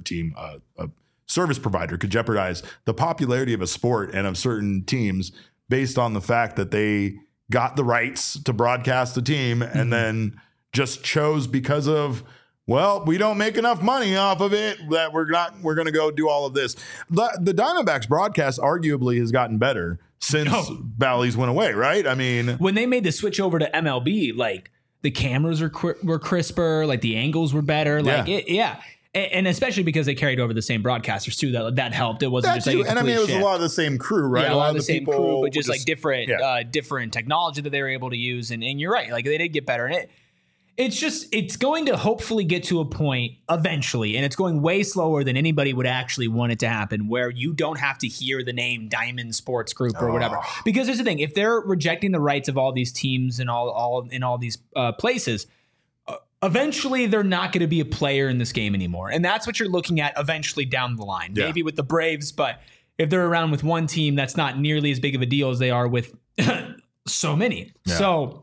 service provider could jeopardize the popularity of a sport and of certain teams based on the fact that they got the rights to broadcast the team and then just chose, because of, well, we don't make enough money off of it, that we're going to go do all of this. The Diamondbacks broadcast arguably has gotten better since Bally's went away, right? I mean, when they made the switch over to MLB, like, the cameras were crisper, like the angles were better, like and especially because they carried over the same broadcasters too. That helped. It wasn't just like and I mean, it was a lot of the same crew, right? Yeah, a lot of the same crew, but just like different technology that they were able to use. And you're right, like, they did get better. And it's going to hopefully get to a point eventually, and it's going way slower than anybody would actually want it to happen, where you don't have to hear the name Diamond Sports Group or whatever. Because here's the thing: if they're rejecting the rights of all these teams and all these places, eventually they're not going to be a player in this game anymore. And that's what you're looking at eventually down the line. Yeah. Maybe with the Braves, but if they're around with one team, that's not nearly as big of a deal as they are with so many. Yeah. So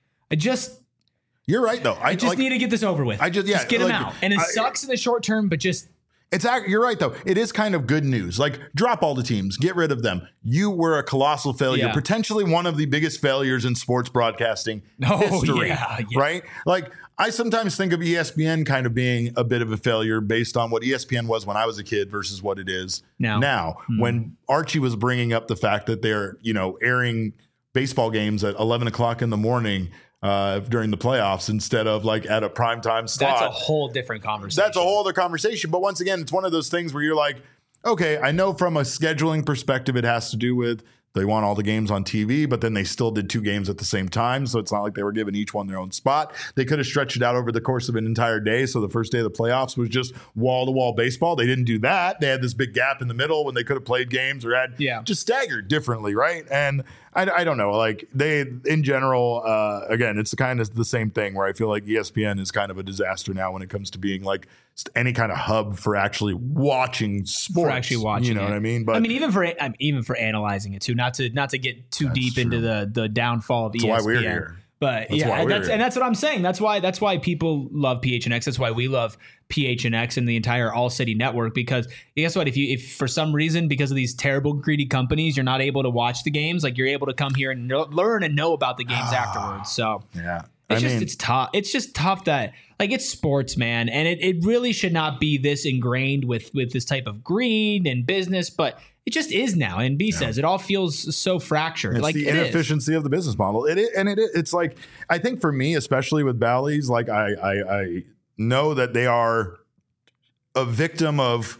you're right, though. I just need to get this over with. Just get them out. And it sucks in the short term, but just... You're right, though. It is kind of good news. Like, drop all the teams. Get rid of them. You were a colossal failure. Yeah. Potentially one of the biggest failures in sports broadcasting history. Yeah. Right? Like, I sometimes think of ESPN kind of being a bit of a failure based on what ESPN was when I was a kid versus what it is now. When Archie was bringing up the fact that they're, airing baseball games at 11 o'clock in the morning during the playoffs instead of like at a primetime slot. That's a whole different conversation. That's a whole other conversation. But once again, it's one of those things where you're like, okay, I know from a scheduling perspective, it has to do with they want all the games on TV, but then they still did 2 games at the same time. So it's not like they were giving each one their own spot. They could have stretched it out over the course of an entire day. So the first day of the playoffs was just wall-to-wall baseball. They didn't do that. They had this big gap in the middle when they could have played games or had just staggered differently, right? And I don't know. Like, they, in general, again, it's kind of the same thing where I feel like ESPN is kind of a disaster now when it comes to being like any kind of hub for actually watching sports. For actually watching, you know what I mean? But I mean, even for analyzing it too. Not to get too deep into the downfall of ESPN. That's why we're here. But that's what I'm saying. That's why people love PHNX. That's why we love PHNX and the entire All City network, because guess what? If for some reason, because of these terrible greedy companies, you're not able to watch the games, like, you're able to come here and learn and know about the games afterwards. So It's tough. It's just tough that like it's sports, man. And it really should not be this ingrained with this type of greed and business, but it just is now. And B says it all feels so fractured. It's like the inefficiency of the business model. It's like, I think for me, especially with Bally's, like I know that they are a victim of,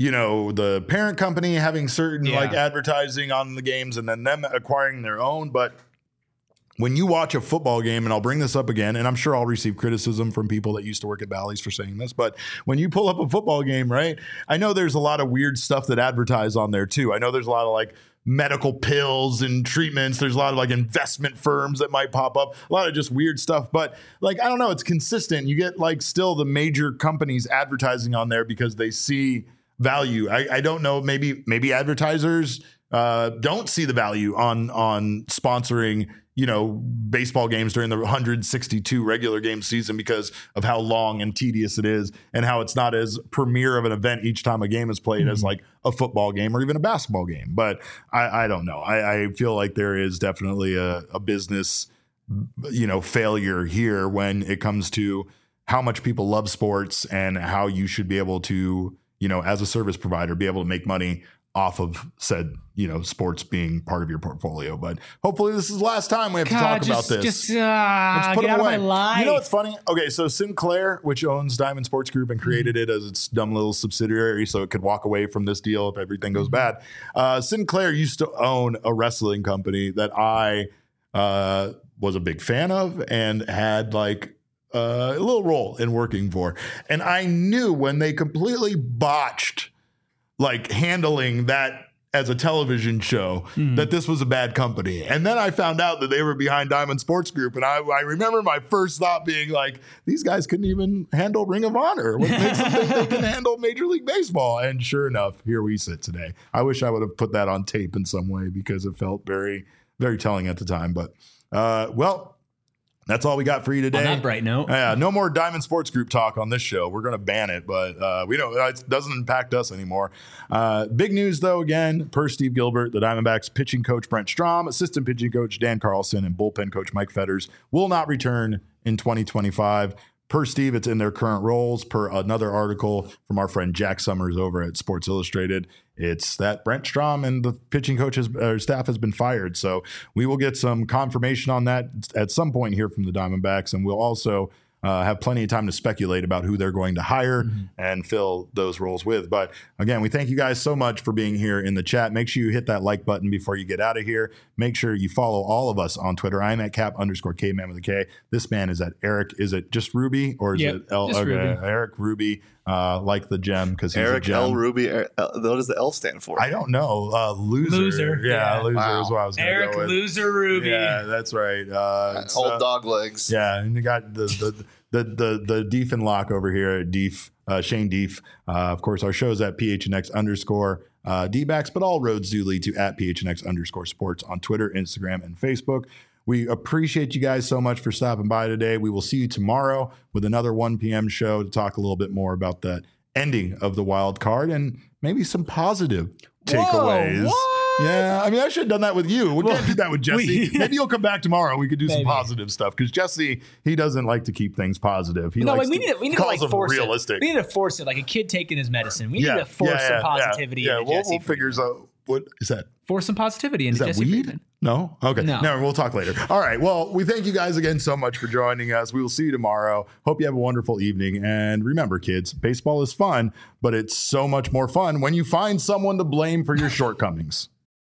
the parent company having certain like advertising on the games and then them acquiring their own. But when you watch a football game, and I'll bring this up again, and I'm sure I'll receive criticism from people that used to work at Bally's for saying this, but when you pull up a football game, right, I know there's a lot of weird stuff that advertise on there too. I know there's a lot of like medical pills and treatments. There's a lot of like investment firms that might pop up, a lot of just weird stuff. But like, I don't know, it's consistent. You get like still the major companies advertising on there because they see value. I don't know, maybe advertisers don't see the value on sponsoring baseball games during the 162 regular game season because of how long and tedious it is and how it's not as premier of an event each time a game is played as like a football game or even a basketball game. But I don't know. I feel like there is definitely a business, failure here when it comes to how much people love sports and how you should be able to, as a service provider, be able to make money off of said, sports being part of your portfolio. But hopefully this is the last time we have to talk about this. Let's put it away. Of my life. You know what's funny? Okay, so Sinclair, which owns Diamond Sports Group and created it as its dumb little subsidiary so it could walk away from this deal if everything goes bad. Sinclair used to own a wrestling company that I was a big fan of and had like a little role in working for. And I knew when they completely botched like handling that as a television show, that this was a bad company. And then I found out that they were behind Diamond Sports Group. And I remember my first thought being like, these guys couldn't even handle Ring of Honor. What makes them think they can handle Major League Baseball? And sure enough, here we sit today. I wish I would have put that on tape in some way because it felt very, very telling at the time. But, that's all we got for you today. On that bright note. Yeah, no more Diamond Sports Group talk on this show. We're going to ban it, but we don't. It doesn't impact us anymore. Big news, though, again, per Steve Gilbert, the Diamondbacks pitching coach Brent Strom, assistant pitching coach Dan Carlson, and bullpen coach Mike Fetters will not return in 2025. Per Steve, it's in their current roles. Per another article from our friend Jack Summers over at Sports Illustrated, it's that Brent Strom and the pitching coach staff has been fired. So we will get some confirmation on that at some point here from the Diamondbacks, and we'll also have plenty of time to speculate about who they're going to hire and fill those roles with. But again, we thank you guys so much for being here in the chat. Make sure you hit that like button before you get out of here. Make sure you follow all of us on Twitter. I'm at Cap_Kman with a K. This man is at Eric. Is it just Ruby or is it L? Okay, Ruby. Eric Ruby, like the gem because he's Eric a gem. L. Ruby. What does the L stand for? I don't know. Loser. Yeah, loser is what I was going to Eric go with. Loser Ruby. Yeah, that's right. Old dog legs. Yeah, and you got the Deef and Lock over here at Deef, Shane Deef. Of course, our show's at PHNX_D-backs, but all roads do lead to at PHNX_sports on Twitter, Instagram, and Facebook. We appreciate you guys so much for stopping by today. We will see you tomorrow with another 1 p.m. show to talk a little bit more about the ending of the wild card and maybe some positive takeaways. What? Yeah, I mean, I should have done that with you. We can't do that with Jesse. Maybe you'll come back tomorrow. We could do some positive stuff because Jesse, he doesn't like to keep things positive. He likes we need to like force realistic. it. We need to force it like a kid taking his medicine. We need to force some positivity. Yeah, we'll figure out what is that. Force some positivity into Jesse weed? Friedman. No? Okay. No, we'll talk later. All right. Well, we thank you guys again so much for joining us. We will see you tomorrow. Hope you have a wonderful evening. And remember, kids, baseball is fun, but it's so much more fun when you find someone to blame for your shortcomings.